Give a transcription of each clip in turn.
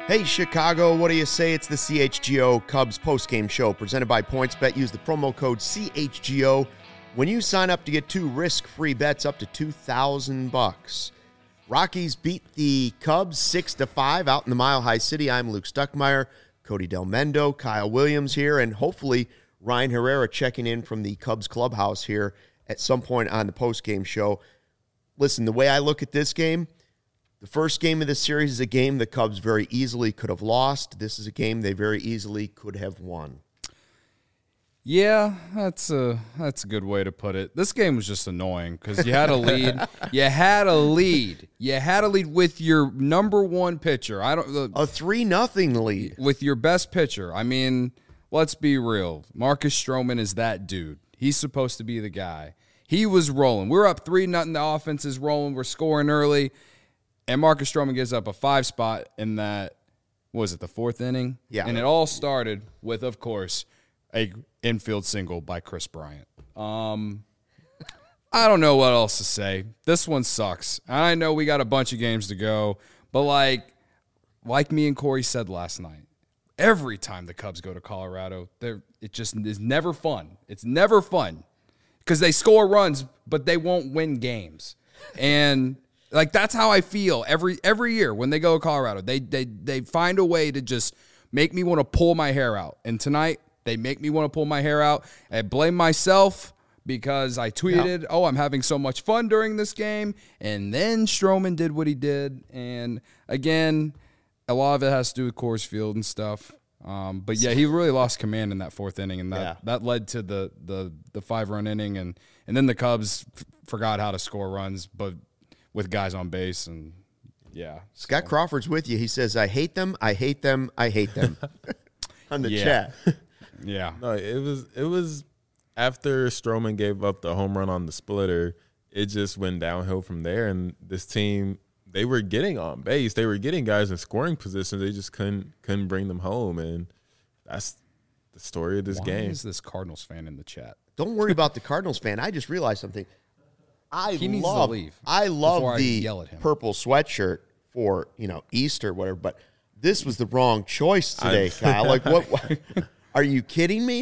Hey, Chicago, what do you say? It's the CHGO Cubs postgame show presented by PointsBet. Use the promo code CHGO when you sign up to get 2 risk-free bets up to $2,000. Rockies beat the Cubs 6-5 out in the Mile High City. I'm Luke Stuckmeyer, Cody Del Mendo, Kyle Williams here, and hopefully Ryan Herrera checking in from the Cubs clubhouse here at some point on the postgame show. Listen, the way I look at this game, the first game of the series is a game the Cubs very easily could have lost. This is a game they very easily could have won. Yeah, that's a good way to put it. This game was just annoying because you had a lead. You had a lead with your number one pitcher. A 3-0 lead with your best pitcher. I mean, let's be real. Marcus Stroman is that dude. He's supposed to be the guy. He was rolling. We're up 3-0. The offense is rolling. We're scoring early. And Marcus Stroman gives up a 5 spot in that, what was it, the 4th inning? Yeah. And it all started with, of course, a infield single by Chris Bryant. I don't know what else to say. This one sucks. I know we got a bunch of games to go, but like me and Corey said last night, every time the Cubs go to Colorado, it just is never fun. It's never fun because they score runs, but they won't win games. And that's how I feel every year when they go to Colorado. They find a way to just make me want to pull my hair out. And tonight, they make me want to pull my hair out. I blame myself because I tweeted, I'm having so much fun during this game. And then Stroman did what he did. And again, a lot of it has to do with Coors Field and stuff. But yeah, he really lost command in that 4th inning. And that led to the 5-run inning. And then the Cubs forgot how to score runs, but with guys on base, and Scott Crawford's with you. He says, I hate them, I hate them, I hate them on the chat. Yeah. No, it was after Stroman gave up the home run on the splitter, it just went downhill from there. And this team, they were getting on base. They were getting guys in scoring positions. They just couldn't bring them home. And that's the story of this game. Why is this Cardinals fan in the chat? Don't worry about the Cardinals fan. I just realized something. He needs to leave. I love the purple sweatshirt for, Easter, whatever, but this was the wrong choice today, Kyle. What? Are you kidding me?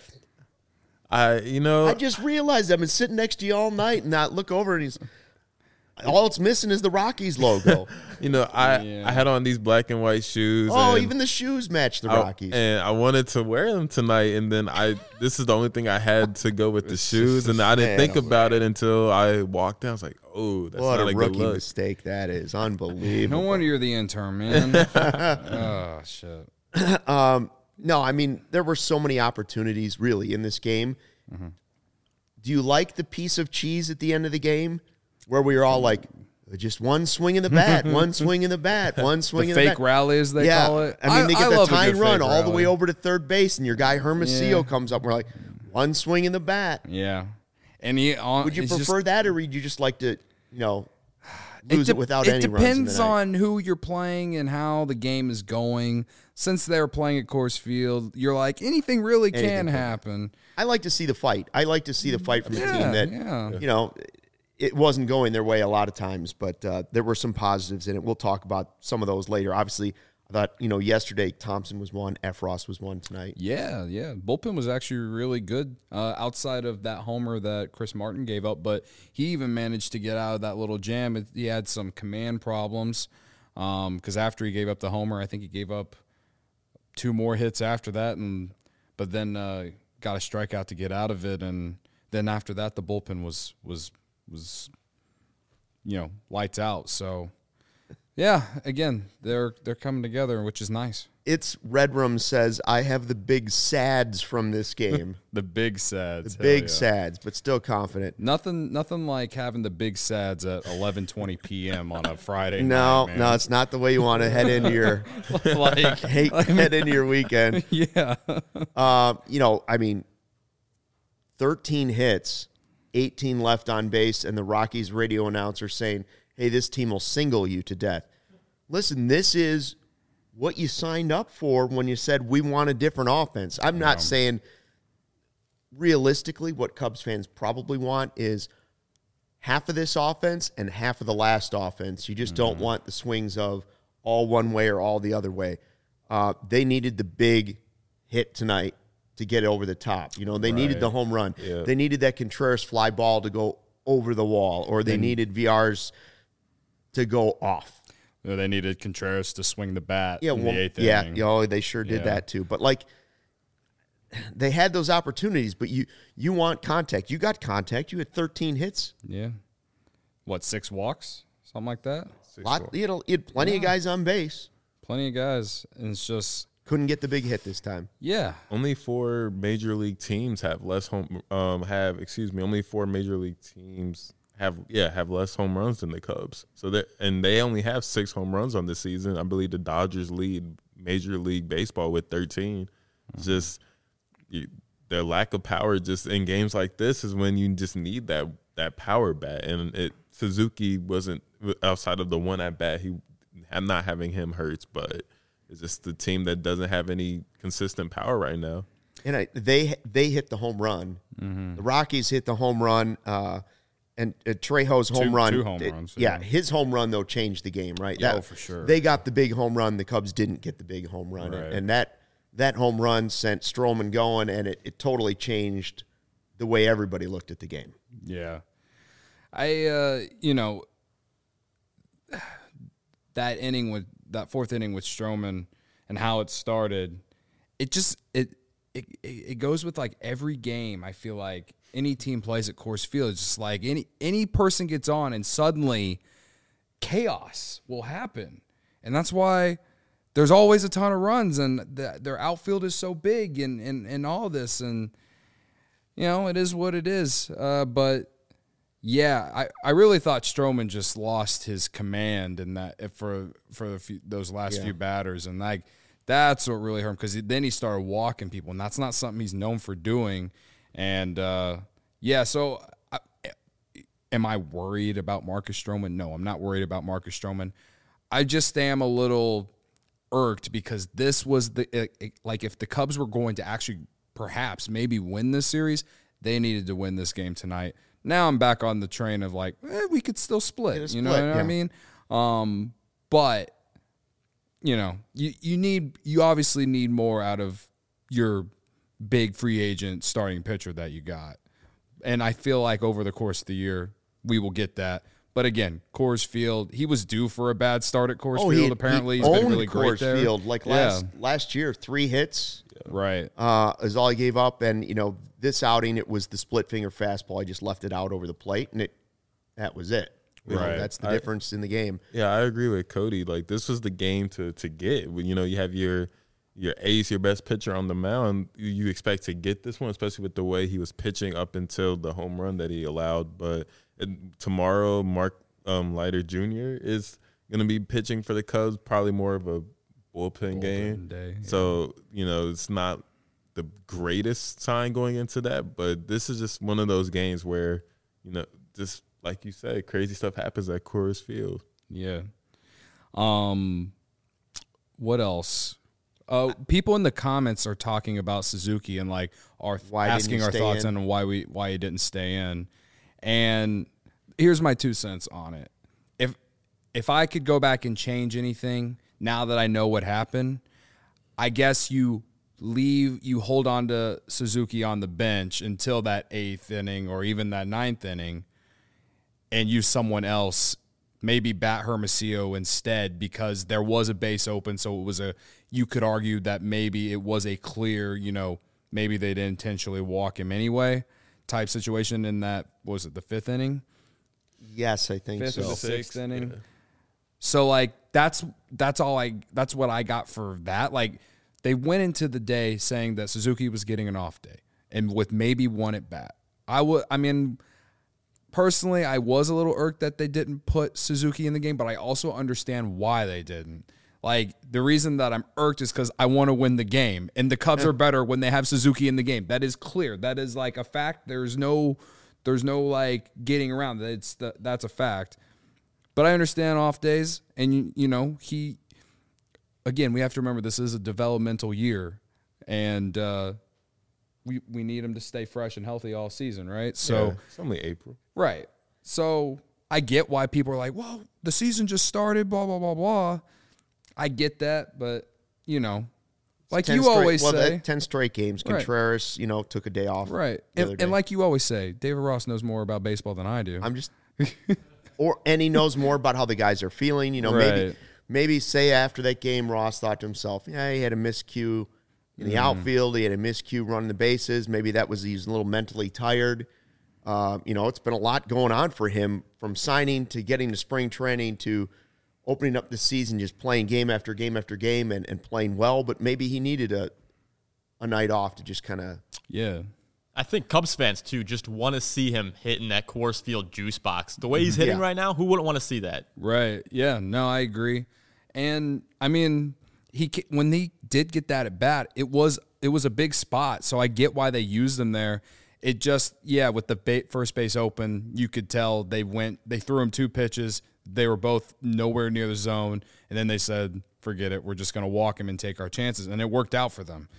I just realized I've been sitting next to you all night and I look over and all it's missing is the Rockies logo. I had on these black and white shoes. Oh, even the shoes match the Rockies. And I wanted to wear them tonight, and then this is the only thing I had to go with the shoes, and I didn't think about it until I walked in. I was like, oh, that's what not a good rookie look. mistake that is. Unbelievable. No wonder you're the intern, man. Oh, shit. No, I mean, there were so many opportunities, really, in this game. Mm-hmm. Do you like the piece of cheese at the end of the game where we were all like, just one swing in the bat, one swing in the bat, one swing in the bat? The fake rally, as they call it. I mean, they get the tying run all the way over to third base, and your guy Hermosillo comes up, and we're like, one swing in the bat. Yeah. And would you prefer that, or would you just like to, lose it without any runs? It depends on who you're playing and how the game is going. Since they're playing at Coors Field, you're like, anything really can happen. I like to see the fight. I like to see the fight from the team that, it wasn't going their way a lot of times, but there were some positives in it. We'll talk about some of those later. Obviously, I thought, yesterday Thompson was one, Efros was one tonight. Yeah. Bullpen was actually really good outside of that homer that Chris Martin gave up, but he even managed to get out of that little jam. He had some command problems because after he gave up the homer, I think he gave up 2 more hits after that, but then got a strikeout to get out of it, and then after that, the bullpen was lights out. So, yeah, again, they're coming together, which is nice. It's Redrum says, I have the big sads from this game. The big sads. The big sads, but still confident. Nothing like having the big sads at 11:20 p.m. on a Friday night, man. No, it's not the way you want to head into your head into your weekend. Yeah. 13 hits, 18 left on base, and the Rockies radio announcer saying, hey, this team will single you to death. Listen, this is what you signed up for when you said we want a different offense. I'm not saying realistically what Cubs fans probably want is half of this offense and half of the last offense. You just don't want the swings of all one way or all the other way. They needed the big hit tonight to get over the top. They needed the home run. Yeah. They needed that Contreras fly ball to go over the wall, or they needed VR's to go off. They needed Contreras to swing the bat Yeah, in the eighth yeah, inning. they sure did Yeah. that too. But they had those opportunities, but you want contact. You got contact. You had 13 hits. Yeah. What, 6 walks? Something like that? You had plenty of guys on base. Plenty of guys. And it's just, Couldn't get the big hit this time. yeah. Only 4 major league teams have less only 4 major league teams have less home runs than the Cubs. So they only have 6 home runs on this season. I believe the Dodgers lead Major League Baseball with 13. Just their lack of power just in games like this is when you just need that power bat. And Suzuki wasn't, outside of the one at bat, I'm not having him hurts, but it's just the team that doesn't have any consistent power right now. And they hit the home run. Mm-hmm. The Rockies hit the home run, and Trejo's home run. 2 home runs. Yeah, his home run though changed the game, right? Yeah, for sure. They got the big home run. The Cubs didn't get the big home run, Right. and that home run sent Stroman going, and it totally changed the way everybody looked at the game. Yeah. That fourth inning with Stroman and how it started, it goes with like every game. I feel like any team plays at Coors Field, it's just like any person gets on and suddenly chaos will happen. And that's why there's always a ton of runs, and their outfield is so big and all this, and it is what it is. But yeah, I really thought Stroman just lost his command in that for those last few batters, and that's what really hurt him, because then he started walking people, and that's not something he's known for doing. And so am I worried about Marcus Stroman? No, I'm not worried about Marcus Stroman. I just am a little irked because this was if the Cubs were going to actually perhaps maybe win this series, they needed to win this game tonight. Now I'm back on the train of we could still split. You know what I mean? But you obviously need more out of your big free agent starting pitcher that you got. And I feel like over the course of the year, we will get that. But again, Coors Field, he was due for a bad start at Coors Field. Apparently, he's been really great Coors there. Field. Last year, 3 hits. Right. Is all he gave up. And, this outing, it was the split finger fastball. I just left it out over the plate, and that was it. Right. That's the difference in the game. Yeah, I agree with Cody. This was the game to get. You have your ace, your best pitcher on the mound. You expect to get this one, especially with the way he was pitching up until the home run that he allowed. But tomorrow, Mark Leiter Jr. is going to be pitching for the Cubs, probably more of a bullpen game. Day, yeah. So, it's not the greatest sign going into that, but this is just one of those games where, just like you said, crazy stuff happens at Coors Field. Yeah. What else? People in the comments are talking about Suzuki and asking our thoughts on why he didn't stay in. And here's my 2 cents on it. If I could go back and change anything now that I know what happened, I guess you hold on to Suzuki on the bench until that 8th inning or even that 9th inning, and use someone else, maybe bat Hermosillo instead, because there was a base open. So you could argue that maybe it was a clear, maybe they didn't intentionally walk him anyway type situation in that, was it the 5th inning? Yes, I think 5th so. or the 6th inning. Yeah. So that's what I got for that. They went into the day saying that Suzuki was getting an off day and with maybe one at bat. Personally, I was a little irked that they didn't put Suzuki in the game, but I also understand why they didn't. The reason that I'm irked is because I want to win the game, and the Cubs are better when they have Suzuki in the game. That is clear. That is a fact. There's no getting around that. That's a fact. But I understand off days, and again, we have to remember this is a developmental year, and we need him to stay fresh and healthy all season, right? So it's only April. Right. So I get why people are like, well, the season just started, blah, blah, blah, blah. I get that, but like 10 you straight- always well, say, that 10 straight games. Right. Contreras, took a day off. right? the other day. And like you always say, David Ross knows more about baseball than I do. I'm just, and he knows more about how the guys are feeling. Right. Maybe say after that game, Ross thought to himself, yeah, he had a miscue in the outfield. He had a miscue running the bases. Maybe that was he's a little mentally tired. It's been a lot going on for him from signing to getting to spring training to opening up the season, just playing game after game after game and playing well. But maybe he needed a night off to just kind of I think Cubs fans, too, just want to see him hitting that Coors Field juice box. The way he's hitting right now, who wouldn't want to see that? Right. Yeah. No, I agree. And, I mean, when he did get that at bat, it was a big spot, so I get why they used him there. It just, with the first base open, you could tell they threw him 2 pitches. They were both nowhere near the zone, and then they said, forget it, we're just going to walk him and take our chances, and it worked out for them.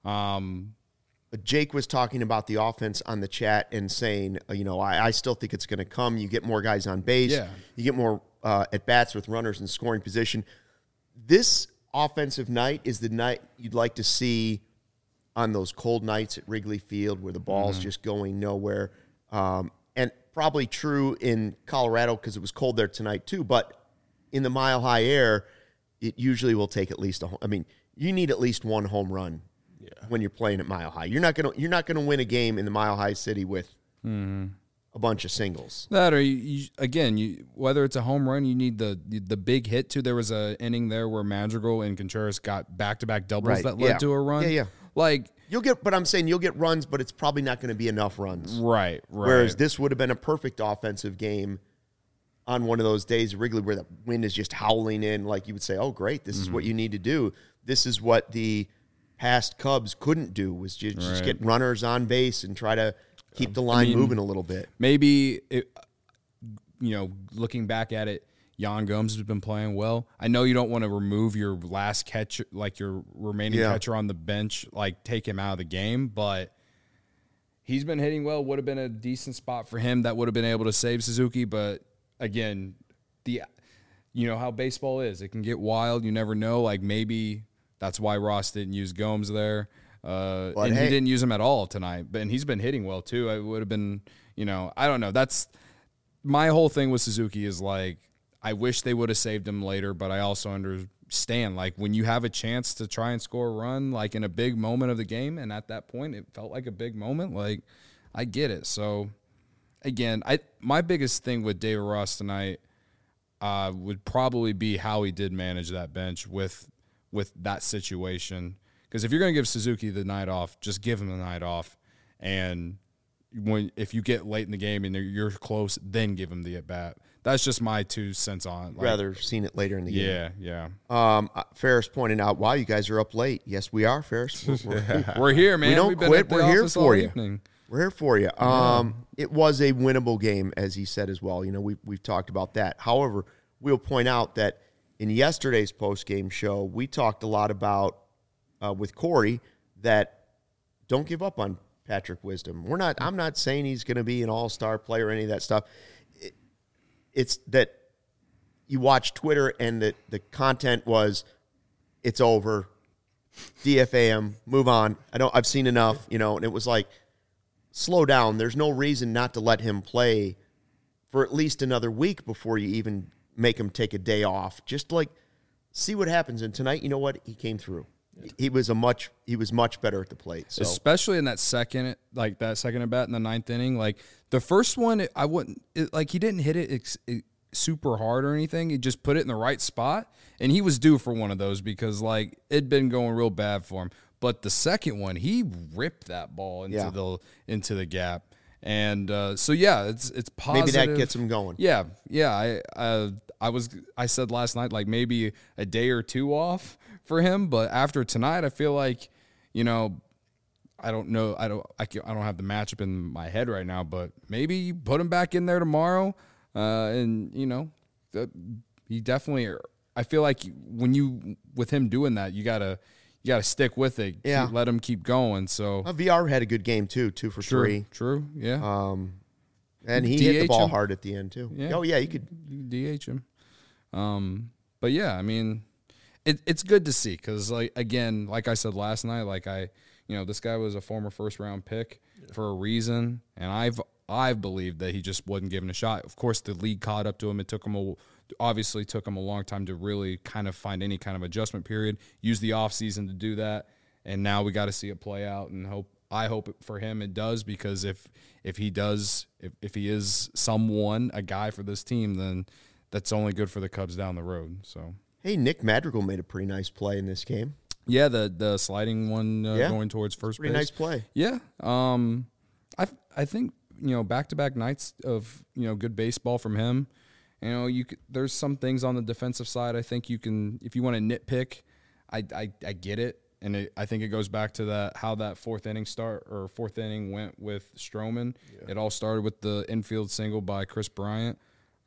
Jake was talking about the offense on the chat and saying, I still think it's going to come. You get more guys on base. Yeah. You get more at-bats with runners in scoring position. This offensive night is the night you'd like to see on those cold nights at Wrigley Field where the ball's just going nowhere. And probably true in Colorado because it was cold there tonight too. But in the mile-high air, it usually will take at least you need at least one home run when you're playing at Mile High. You're not gonna win a game in the Mile High City with a bunch of singles. That or whether it's a home run, you need the big hit too. There was a inning there where Madrigal and Contreras got back-to-back doubles that led to a run. Yeah. Like I'm saying you'll get runs, but it's probably not going to be enough runs. Right. Whereas this would have been a perfect offensive game on one of those days at Wrigley where the wind is just howling in. Like you would say, oh, great, this is what you need to do. This is what the past Cubs couldn't do, was just get runners on base and try to keep the line moving a little bit. Maybe, looking back at it, Yan Gomes has been playing well. I know you don't want to remove your last catcher, like your remaining catcher on the bench, like take him out of the game, but he's been hitting well. Would have been a decent spot for him that would have been able to save Suzuki, but again, how baseball is. It can get wild. You never know. Like maybe that's why Ross didn't use Gomes there. He didn't use him at all tonight. And he's been hitting well too. It would have been, I don't know. That's my whole thing with Suzuki is like, I wish they would have saved him later, but I also understand, like, when you have a chance to try and score a run, like, in a big moment of the game, and at that point it felt like a big moment, like, I get it. So, again, my biggest thing with David Ross tonight would probably be how he did manage that bench with that situation. Because if you're going to give Suzuki the night off, just give him the night off. And if you get late in the game and you're close, then give him the at-bat. That's just my 2 cents on it. Rather seen it later in the game. Yeah. Ferris pointed out, wow, you guys are up late. Yes, we are, Ferris. We're here, man. We don't We've been quit. at the We're here office for all you. evening. We're here for you. It was a winnable game, as he said as well. We've talked about that. However, we'll point out that in yesterday's post-game show, we talked a lot about, with Corey, that don't give up on Patrick Wisdom. I'm not saying he's going to be an all-star player or any of that stuff. It's that you watch Twitter and the content was, it's over, DFA him, move on. I've seen enough, and it was like, slow down. There's no reason not to let him play for at least another week before you even make him take a day off. Just like see what happens. And tonight, you know what? He came through. He was much better at the plate. So. Especially in that second at bat in the 9th inning. Like the first one, he didn't hit it super hard or anything. He just put it in the right spot, and he was due for one of those because it'd been going real bad for him. But the second one, he ripped that ball into the gap. And it's positive. Maybe that gets him going. Yeah. I said last night, like maybe a day or 2 off for him, but after tonight, I feel like, I don't know, I don't have the matchup in my head right now, but maybe you put him back in there tomorrow, and he definitely. I feel like with him doing that, you gotta stick with it. Yeah. Let him keep going. So VR had a good game too, 2 for 3. True. Yeah. And he hit the ball hard at the end too. Yeah. Oh yeah, you could DH him. But yeah, I mean, it's good to see because, like, again, like I said last night, this guy was a former first-round pick for a reason, and I've believed that he just wasn't given a shot. Of course, the league caught up to him. It took him a long time to really kind of find any kind of adjustment period. Use the offseason to do that, and now we got to see it play out. And I hope for him it does, because if he is a guy for this team, then that's only good for the Cubs down the road. So. Hey, Nick Madrigal made a pretty nice play in this game. Yeah, the sliding one going towards first base. Pretty nice play. Yeah. I think, back-to-back nights of, good baseball from him. There's some things on the defensive side I think you can, if you want to nitpick, I get it. And I think it goes back to how that fourth inning went with Stroman. Yeah. It all started with the infield single by Kris Bryant.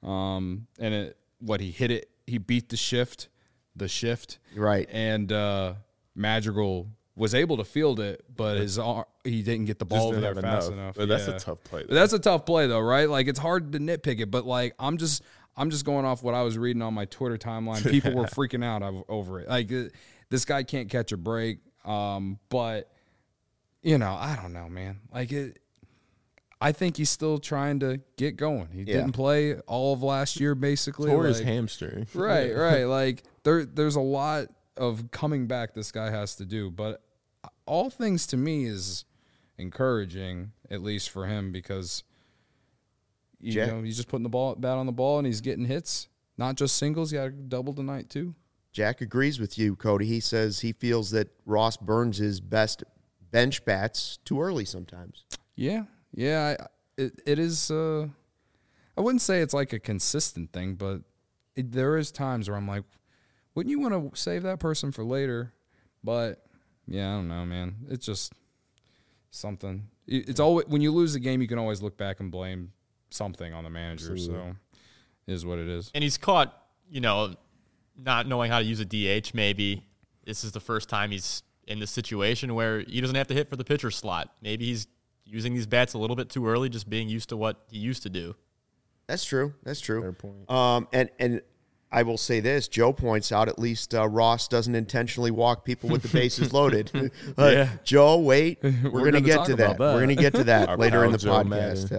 He beat the shift. Right. And Madrigal was able to field it, but he didn't get the ball over there fast enough. But that's a tough play. That's a tough play, though, right? Like, it's hard to nitpick it, but, like, I'm just going off what I was reading on my Twitter timeline. People were freaking out over it. Like, this guy can't catch a break. But, I don't know, man. Like, I think he's still trying to get going. He didn't play all of last year, basically. Tore his hamstring. Right. Like, there's a lot of coming back this guy has to do. But all things to me is encouraging, at least for him, because he's just putting the bat on the ball and he's getting hits. Not just singles, he got a double tonight too. Jack agrees with you, Cody. He says he feels that Ross burns his best bench bats too early sometimes. Yeah. It is. I wouldn't say it's like a consistent thing, but there is times where I'm like, wouldn't you want to save that person for later? But yeah, I don't know, man. It's just something. It's always, when you lose the game, you can always look back and blame something on the manager. Absolutely. So it is what it is. And he's caught, not knowing how to use a DH. Maybe this is the first time he's in this situation where he doesn't have to hit for the pitcher slot. Maybe he's using these bats a little bit too early, just being used to what he used to do. That's true. Fair point. And I will say this: Joe points out at least Ross doesn't intentionally walk people with the bases loaded. Joe, wait, we're going to get to that. We're going to get to that later in the podcast.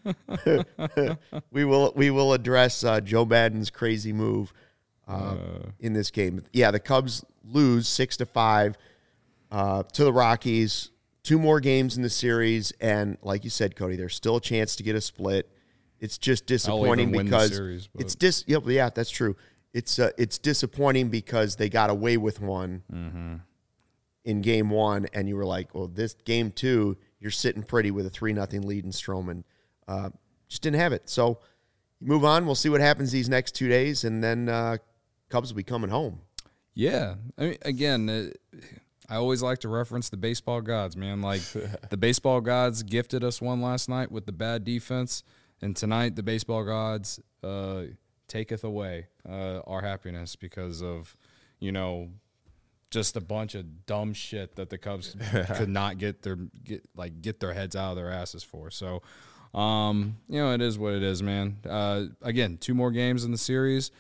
We will address Joe Maddon's crazy move in this game. Yeah, the Cubs lose 6-5 to the Rockies. 2 more games in the series, and like you said, Cody, there's still a chance to get a split. It's just disappointing because series, that's true. It's disappointing because they got away with one in game 1, and you were like, well, this game 2, you're sitting pretty with a 3-0 lead in Stroman. Just didn't have it. So you move on. We'll see what happens these next 2 days, and then Cubs will be coming home. Yeah. I mean, again, I always like to reference the baseball gods, man. Like, the baseball gods gifted us one last night with the bad defense, and tonight the baseball gods taketh away our happiness because of, just a bunch of dumb shit that the Cubs could not get their heads out of their asses for. So, it is what it is, man. Again, 2 more games in the series.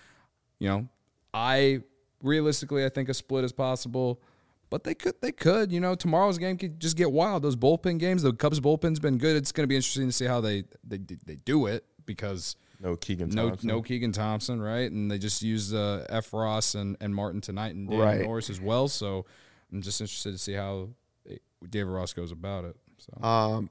Realistically, I think a split is possible. But they could. Tomorrow's game could just get wild. Those bullpen games, the Cubs bullpen's been good. It's going to be interesting to see how they do it because no Keegan Thompson, right? And they just used F. Ross and Martin tonight and David Norris as well. So I'm just interested to see how David Ross goes about it. So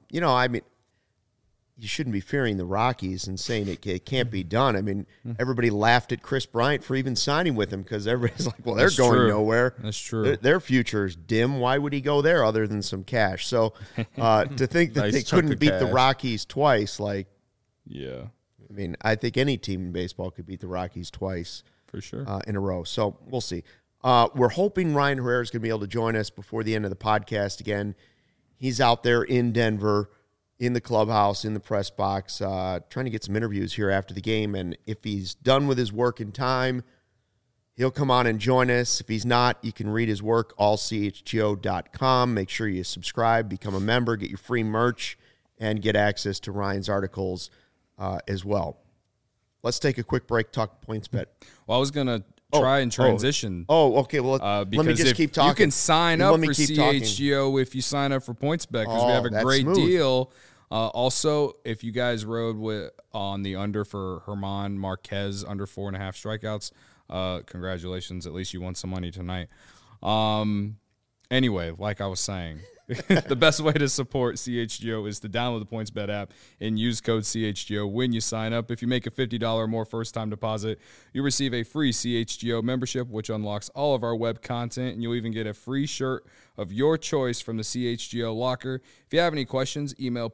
you shouldn't be fearing the Rockies and saying it can't be done. I mean, everybody laughed at Kris Bryant for even signing with him because everybody's like, well, they're going nowhere. That's true. Their future is dim. Why would he go there other than some cash? So to think that they couldn't beat the Rockies twice, I mean, I think any team in baseball could beat the Rockies twice. For sure. In a row. So we'll see. We're hoping Ryan Herrera is going to be able to join us before the end of the podcast again. He's out there in Denver, in the clubhouse, in the press box, trying to get some interviews here after the game. And if he's done with his work in time, he'll come on and join us. If he's not, you can read his work, allchgo.com. Make sure you subscribe, become a member, get your free merch, and get access to Ryan's articles as well. Let's take a quick break, talk PointsBet. Well, I was going to try and transition. Okay. Well, let me Because just if keep talking. you can sign Let up me for keep talking. CHGO if you sign up for PointsBet because we have a that's great smooth. deal. Also, if you guys rode on the under for Herman Marquez under 4.5 strikeouts, congratulations. At least you won some money tonight. Anyway, like I was saying, the best way to support CHGO is to download the PointsBet app and use code CHGO when you sign up. If you make a $50 or more first-time deposit, you receive a free CHGO membership, which unlocks all of our web content, and you'll even get a free shirt of your choice from the CHGO locker. If you have any questions, email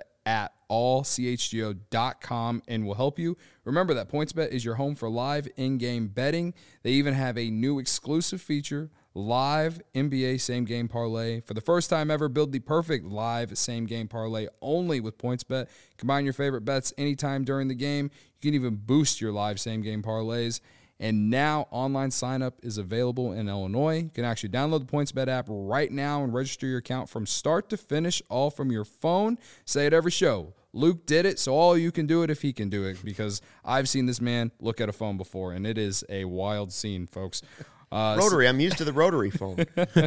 pointsbet@allchgo.com and we'll help you. Remember that PointsBet is your home for live in-game betting. They even have a new exclusive feature, Live NBA Same Game Parlay. For the first time ever, build the perfect live same game parlay only with PointsBet. Combine your favorite bets anytime during the game. You can even boost your live same game parlays. And now online sign up is available in Illinois. You can actually download the PointsBet app right now and register your account from start to finish, all from your phone. Say it every show. Luke did it, so all you can do it if he can do it, because I've seen this man look at a phone before, and it is a wild scene, folks. Rotary. I'm used to the rotary phone.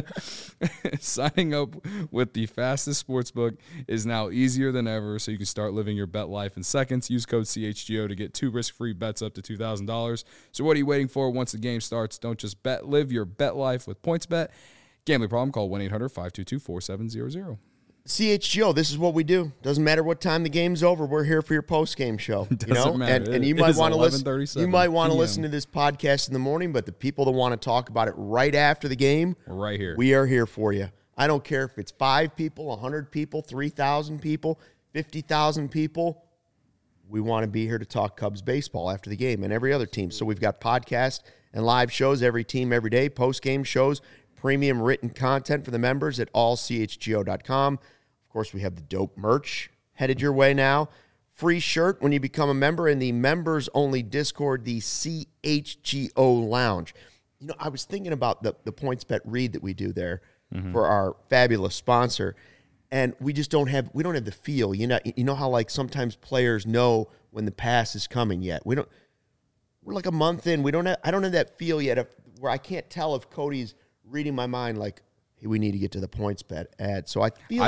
Signing up with the fastest sportsbook is now easier than ever, so you can start living your bet life in seconds. Use code CHGO to get 2 risk-free bets up to $2,000. So what are you waiting for? Once the game starts, don't just bet. Live your bet life with PointsBet. Gambling problem? Call 1-800-522-4700. CHGO, this is what we do. Doesn't matter what time the game's over. We're here for your post game show. Doesn't matter. And you It might is want to listen. 11:37 You might want to PM. listen to this podcast in the morning, but the people that want to talk about it right after the game, We're right here. we are here for you. I don't care if it's 5 people, 100 people, 3,000 people, 50,000 people. We want to be here to talk Cubs baseball after the game and every other team. So we've got podcasts and live shows every team every day, post game shows, premium written content for the members at allchgo.com. Of course, we have the dope merch headed your way now. Free shirt when you become a member in the members-only Discord, the CHGO Lounge. You know, I was thinking about the PointsBet read that we do there for our fabulous sponsor, and we just don't have the feel. You know how like sometimes players know when the pass is coming yet. We're like a month in. I don't have that feel yet where I can't tell if Cody's reading my mind like, hey, we need to get to the PointsBet ad. So I feel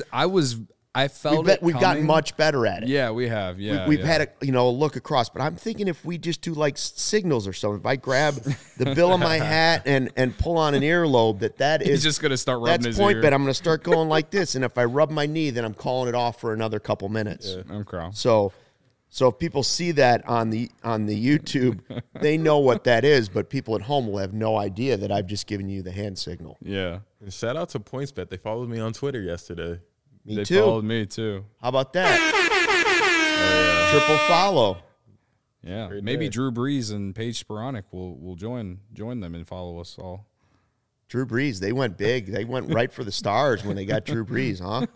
I felt we've gotten much better at it. Yeah, we have. Yeah, We've had a look across, but I'm thinking if we just do like signals or something, if I grab the bill of my hat and pull on an earlobe, that is He's just gonna start rubbing that's his PointsBet. ear. I'm going to start going like this, and if I rub my knee, then I'm calling it off for another couple minutes. Yeah, okay. So if people see that on the YouTube, they know what that is, but people at home will have no idea that I've just given you the hand signal. Yeah. And shout out to PointsBet. They followed me on Twitter yesterday. Me They too. followed me too. How about that? Triple follow. Yeah. Great Maybe day. Drew Brees and Paige Sporonic will join them and follow us all. Drew Brees, they went big. They went right for the stars when they got Drew Brees, huh?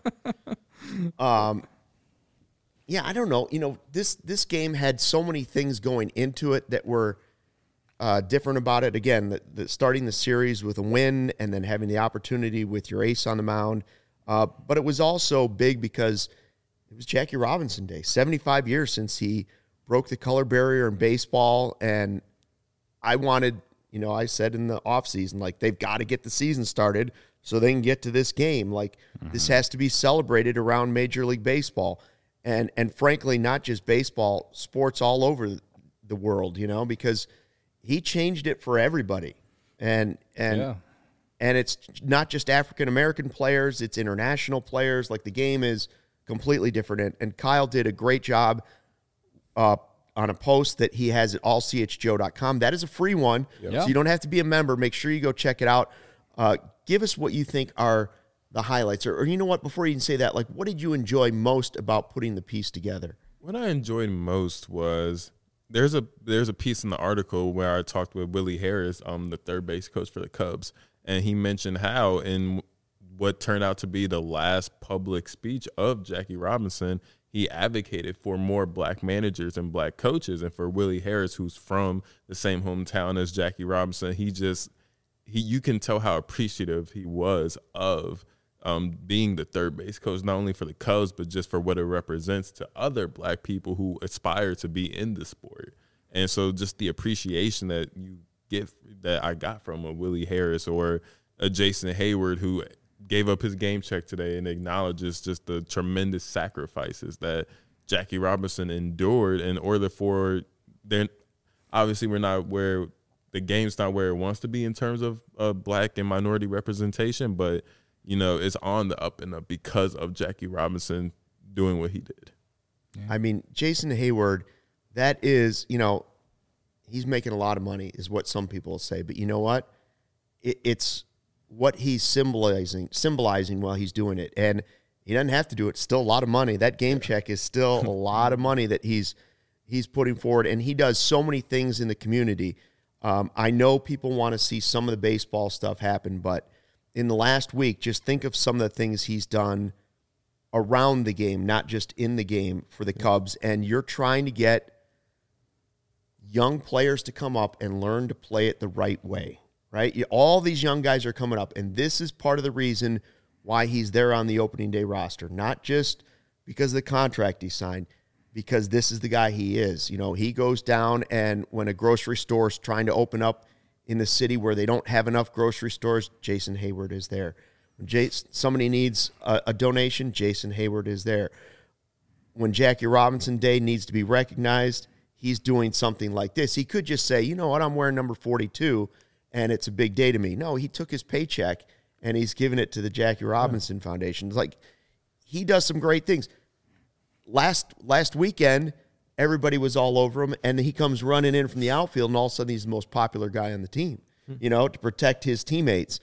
Yeah, I don't know. You know, this game had so many things going into it that were different about it. Again, the starting the series with a win and then having the opportunity with your ace on the mound. But it was also big because it was Jackie Robinson Day. 75 years since he broke the color barrier in baseball. And I wanted, I said in the offseason, like, they've got to get the season started so they can get to this game. Like, this has to be celebrated around Major League Baseball. And frankly, not just baseball, sports all over the world, because he changed it for everybody. And it's not just African-American players, it's international players. Like, the game is completely different. And Kyle did a great job on a post that he has at allchgo.com. That is a free one, so you don't have to be a member. Make sure you go check it out. Give us what you think are the highlights. Or you know what, before you can say that, like, what did you enjoy most about putting the piece together? What I enjoyed most was there's a piece in the article where I talked with Willie Harris, the third base coach for the Cubs, and he mentioned how in what turned out to be the last public speech of Jackie Robinson, he advocated for more black managers and black coaches. And for Willie Harris, who's from the same hometown as Jackie Robinson, you can tell how appreciative he was of being the third base coach, not only for the Cubs, but just for what it represents to other black people who aspire to be in the sport. And so just the appreciation that gift that I got from a Willie Harris or a Jason Hayward who gave up his game check today and acknowledges just the tremendous sacrifices that Jackie Robinson endured in order for their. Obviously, we're not where the game's not where it wants to be in terms of black and minority representation, but it's on the up and up because of Jackie Robinson doing what he did. Yeah. I mean, Jason Hayward, that is, he's making a lot of money is what some people say, but you know what? It's what he's symbolizing while he's doing it. And he doesn't have to do it. It's still a lot of money. That game check is still a lot of money that he's putting forward, and he does so many things in the community. I know people want to see some of the baseball stuff happen, but in the last week, just think of some of the things he's done around the game, not just in the game for the Cubs. And you're trying to get young players to come up and learn to play it the right way, right? All these young guys are coming up, and this is part of the reason why he's there on the opening day roster, not just because of the contract he signed, because this is the guy he is. He goes down, and when a grocery store is trying to open up in the city where they don't have enough grocery stores, Jason Hayward is there. When somebody needs a donation, Jason Hayward is there. When Jackie Robinson Day needs to be recognized, he's doing something like this. He could just say, you know what, I'm wearing number 42, and it's a big day to me. No, he took his paycheck, and he's giving it to the Jackie Robinson Foundation. It's like, he does some great things. Last weekend, everybody was all over him, and he comes running in from the outfield, and all of a sudden he's the most popular guy on the team, to protect his teammates.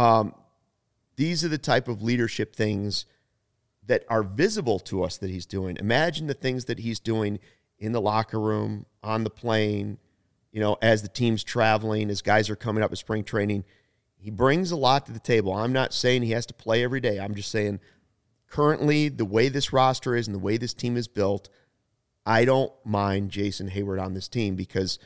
These are the type of leadership things that are visible to us that he's doing. Imagine the things that he's doing in the locker room, on the plane, as the team's traveling, as guys are coming up at spring training. He brings a lot to the table. I'm not saying he has to play every day. I'm just saying currently the way this roster is and the way this team is built, I don't mind Jason Hayward on this team because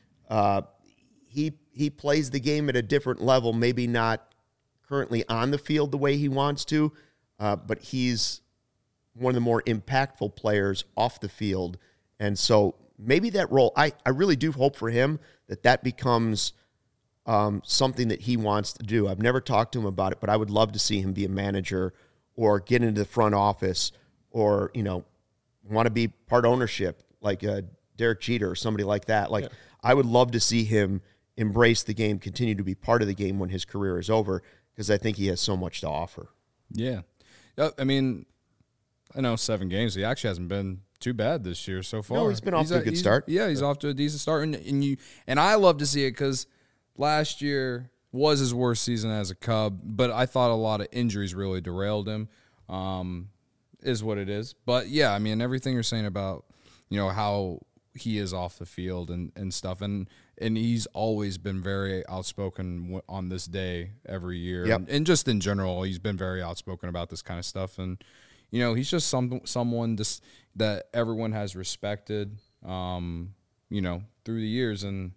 he plays the game at a different level, maybe not currently on the field the way he wants to, but he's one of the more impactful players off the field. And so maybe that role, I really do hope for him that becomes something that he wants to do. I've never talked to him about it, but I would love to see him be a manager or get into the front office or, want to be part ownership like Derek Jeter or somebody like that. I would love to see him embrace the game, continue to be part of the game when his career is over, because I think he has so much to offer. Yeah. I mean, I know 7 games. He actually hasn't been too bad this year so far. No, he's been off to a good start. Yeah, he's off to a decent start. And I love to see it because last year was his worst season as a Cub, but I thought a lot of injuries really derailed him. Is what it is. But, yeah, I mean, everything you're saying about, how he is off the field and stuff. And he's always been very outspoken on this day every year. Yep. And just in general, he's been very outspoken about this kind of stuff. And, he's just someone that everyone has respected, through the years. And,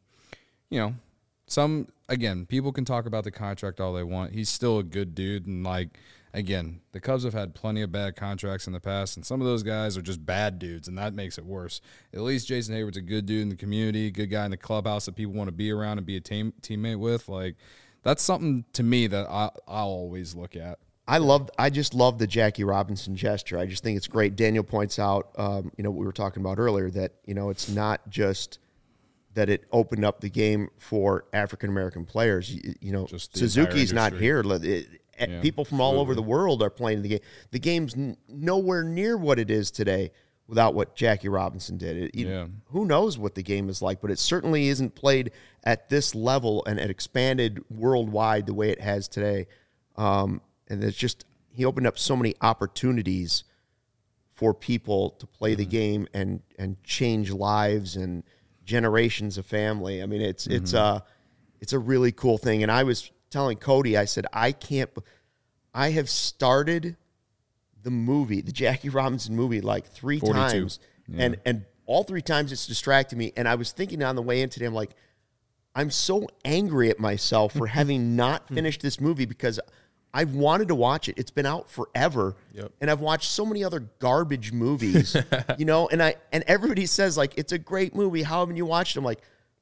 people can talk about the contract all they want. He's still a good dude. And, again, the Cubs have had plenty of bad contracts in the past, and some of those guys are just bad dudes, and that makes it worse. At least Jason Hayward's a good dude in the community, good guy in the clubhouse that people want to be around and be a teammate with. That's something to me that I'll always look at. I just love the Jackie Robinson gesture. I just think it's great. Daniel points out, what we were talking about earlier, that, it's not just that it opened up the game for African-American players. Suzuki's not here. People from all over the world are playing the game. The game's nowhere near what it is today without what Jackie Robinson did. Who knows what the game is like, but it certainly isn't played at this level and expanded worldwide the way it has today. And it's just, he opened up so many opportunities for people to play the game and change lives and generations of family. I mean, it's a really cool thing. And I was telling Cody, I said, I have started the movie, the Jackie Robinson movie, 3 times. Yeah. And all 3 times it's distracted me. And I was thinking on the way in today, I'm like, I'm so angry at myself for having not finished this movie because I've wanted to watch it. It's been out forever. Yep. And I've watched so many other garbage movies, and everybody says, it's a great movie. How haven't you watched it? I'm like,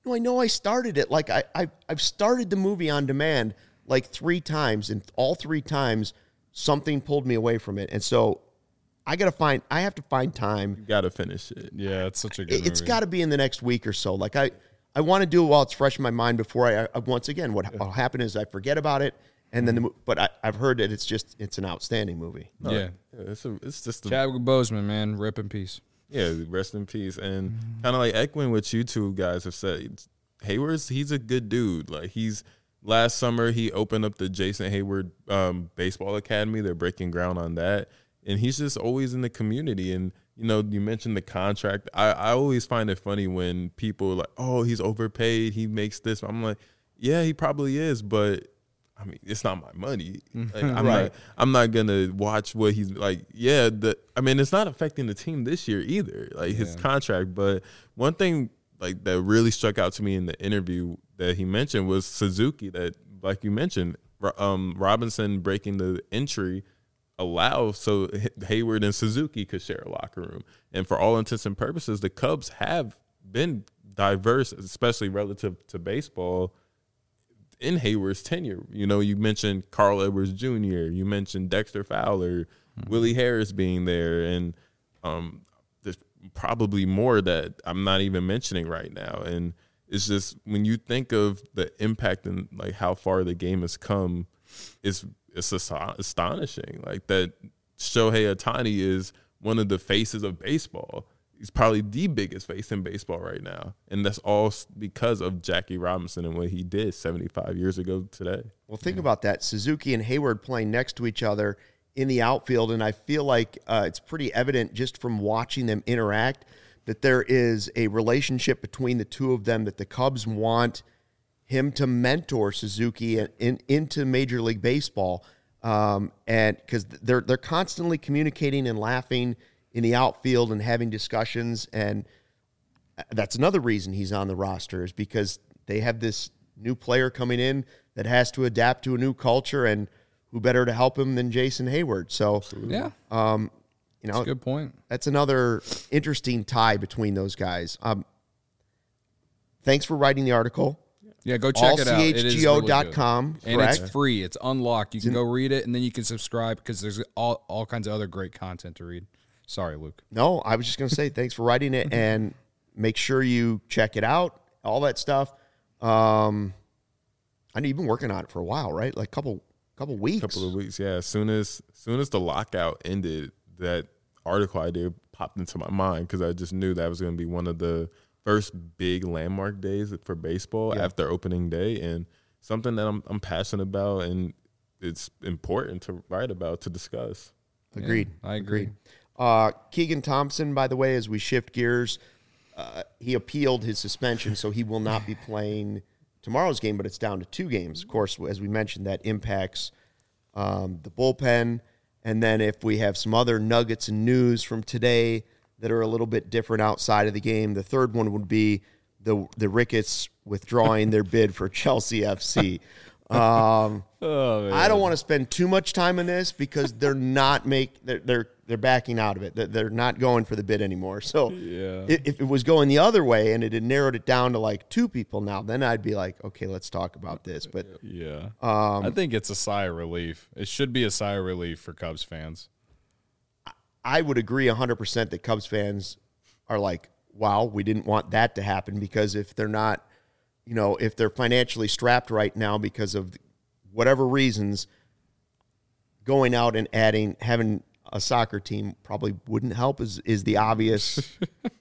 No, I know I started it. Like I've started the movie on demand like 3 times, and all 3 times something pulled me away from it. And so I have to find time. You got to finish it. Yeah, it's such a good movie. It's got to be in the next week or so. Like I want to do it while it's fresh in my mind before I once again, what'll happen is I forget about it. And then, I've heard that it's an outstanding movie. Yeah. It's just Chadwick Boseman, man, rip in peace. Yeah, rest in peace. And kind of like echoing what you two guys have said, he's a good dude. Like last summer he opened up the Jason Hayward Baseball Academy. They're breaking ground on that, and he's just always in the community. And you mentioned the contract. I always find it funny when people are like, oh, he's overpaid. He makes this. I'm like, yeah, he probably is, but I mean, it's not my money. Like, I'm not gonna watch what he's like. Yeah, it's not affecting the team this year either. Like his contract. But one thing like that really struck out to me in the interview that he mentioned was Suzuki. That, like you mentioned, Robinson breaking the entry allows so Hayward and Suzuki could share a locker room. And for all intents and purposes, the Cubs have been diverse, especially relative to baseball, in Hayward's tenure. You mentioned Carl Edwards Jr., you mentioned Dexter Fowler, Willie Harris being there, and there's probably more that I'm not even mentioning right now. And it's just, when you think of the impact and like how far the game has come, it's astonishing. Like that Shohei Ohtani is one of the faces of baseball. He's probably the biggest face in baseball right now. And that's all because of Jackie Robinson and what he did 75 years ago today. Well, think about that. Suzuki and Hayward playing next to each other in the outfield, and I feel like it's pretty evident just from watching them interact that there is a relationship between the two of them, that the Cubs want him to mentor Suzuki into Major League Baseball, and because they're constantly communicating and laughing in the outfield and having discussions, and that's another reason he's on the roster, is because they have this new player coming in that has to adapt to a new culture, and who better to help him than Jason Hayward? So, yeah, that's a good point. That's another interesting tie between those guys. Thanks for writing the article. Yeah, go check it out. allchgo.com, and it's free. It's unlocked. You can go read it, and then you can subscribe because there's all kinds of other great content to read. Sorry, Luke. No, I was just going to say thanks for writing it, and make sure you check it out, all that stuff. I know you've been working on it for a while, right? Like couple weeks. Couple of weeks, yeah. As soon as the lockout ended, that article idea popped into my mind because I just knew that was going to be one of the first big landmark days for baseball after opening day, and something that I'm passionate about, and it's important to write about, to discuss. Agreed. Yeah, I agree. Keegan Thompson, by the way, as we shift gears, he appealed his suspension, so he will not be playing tomorrow's game, but it's down to 2 games. Of course, as we mentioned, that impacts the bullpen. And then if we have some other nuggets and news from today that are a little bit different outside of the game, the third one would be the Ricketts withdrawing their bid for Chelsea FC. I don't want to spend too much time on this because they're backing out of it. They're not going for the bid anymore. So if it was going the other way and it had narrowed it down to like 2 people now, then I'd be like, okay, let's talk about this. But I think it's a sigh of relief. It should be a sigh of relief for Cubs fans. I would agree 100% that Cubs fans are like, wow, we didn't want that to happen, because if they're not, if they're financially strapped right now because of whatever reasons, going out and having a soccer team probably wouldn't help is the obvious.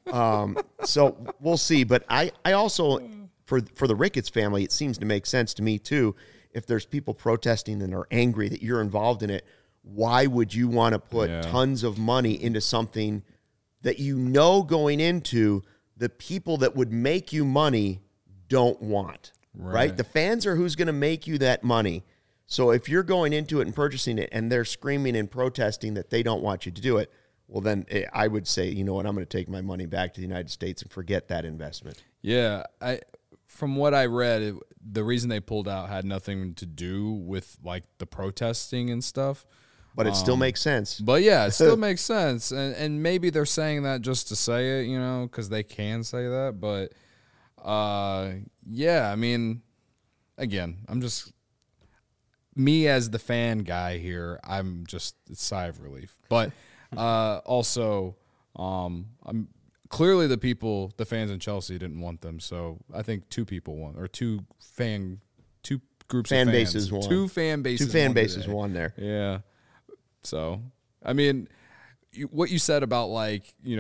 So we'll see. But I also, for the Ricketts family, it seems to make sense to me too. If there's people protesting and are angry that you're involved in it, why would you want to put tons of money into something that going into, the people that would make you money don't want, right? The fans are who's going to make you that money. So if you're going into it and purchasing it and they're screaming and protesting that they don't want you to do it, well, then I would say, you know what, I'm going to take my money back to the United States and forget that investment. Yeah, from what I read, the reason they pulled out had nothing to do with like the protesting and stuff. But it still makes sense. But yeah, it still makes sense. And maybe they're saying that just to say it, because they can say that. But Yeah, I mean, again, I'm just me as the fan guy here. I'm just a sigh of relief, but also, I'm clearly the fans in Chelsea didn't want them. So I think two groups Fan of fans, bases won. two fan bases, Two fan won bases today. won there. Yeah. So, I mean, what you said about like, we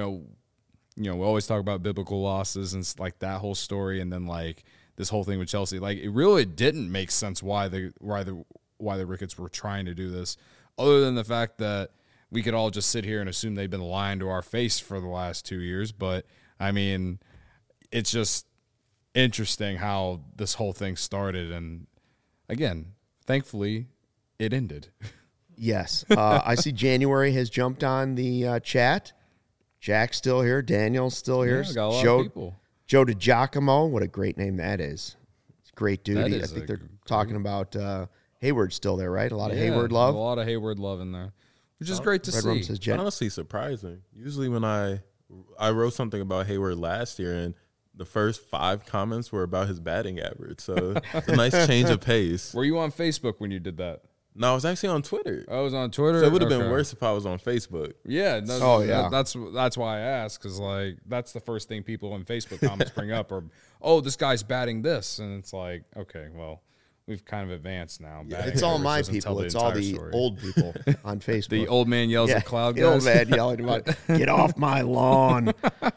always talk about biblical losses and like that whole story, and then like this whole thing with Chelsea, like it really didn't make sense why the Ricketts were trying to do this, other than the fact that we could all just sit here and assume they've been lying to our face for the last 2 years. But I mean, it's just interesting how this whole thing started, and again, thankfully, it ended. Yes. I see January has jumped on the chat. Jack's still here. Daniel's still here. Yeah, got a lot of people. Joe DiGiacomo. What a great name that is. It's a great dude. That I is think a they're talking about Hayward still there, right? A lot of Hayward A love. lot of Hayward love in there, which is great to Red Rum see. says It's Jen. honestly surprising. Usually when I wrote something about Hayward last year, and the first 5 comments were about his batting average. So it's a nice change of pace. Were you on Facebook when you did that? No, I was actually on Twitter. I was on Twitter. So it would have been Okay. worse if I was on Facebook. Yeah. No, Oh, yeah. That's why I asked, because like that's the first thing people in Facebook comments bring up, or this guy's batting this, and it's like, okay, well, we've kind of advanced now. Batting It's all average my doesn't tell people. It's all entire the story. old people on Facebook. The old man yells at cloud the guys. old man yelling about, get off my lawn.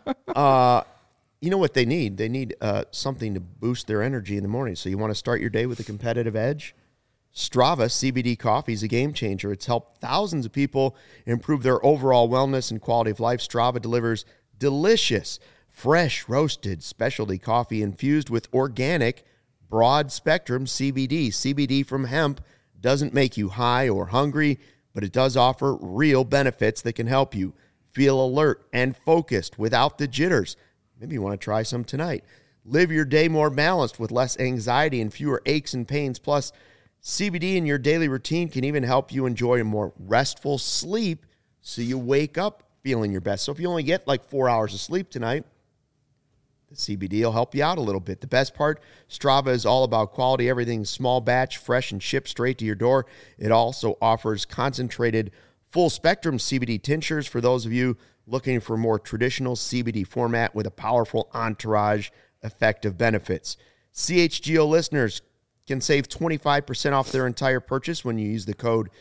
You know what they need? They need something to boost their energy in the morning. So you want to start your day with a competitive edge? Strava CBD coffee is a game changer. It's helped thousands of people improve their overall wellness and quality of life. Strava delivers delicious, fresh, roasted specialty coffee infused with organic, broad-spectrum CBD. CBD from hemp doesn't make you high or hungry, but it does offer real benefits that can help you feel alert and focused without the jitters. Maybe you want to try some tonight. Live your day more balanced with less anxiety and fewer aches and pains. Plus, CBD in your daily routine can even help you enjoy a more restful sleep so you wake up feeling your best. So if you only get like 4 hours of sleep tonight, the CBD will help you out a little bit. The best part, Strava is all about quality. Everything's small batch, fresh, and shipped straight to your door. It also offers concentrated full-spectrum CBD tinctures for those of you looking for more traditional CBD format with a powerful entourage effect of benefits. CHGO listeners can save 25% off their entire purchase when you use the code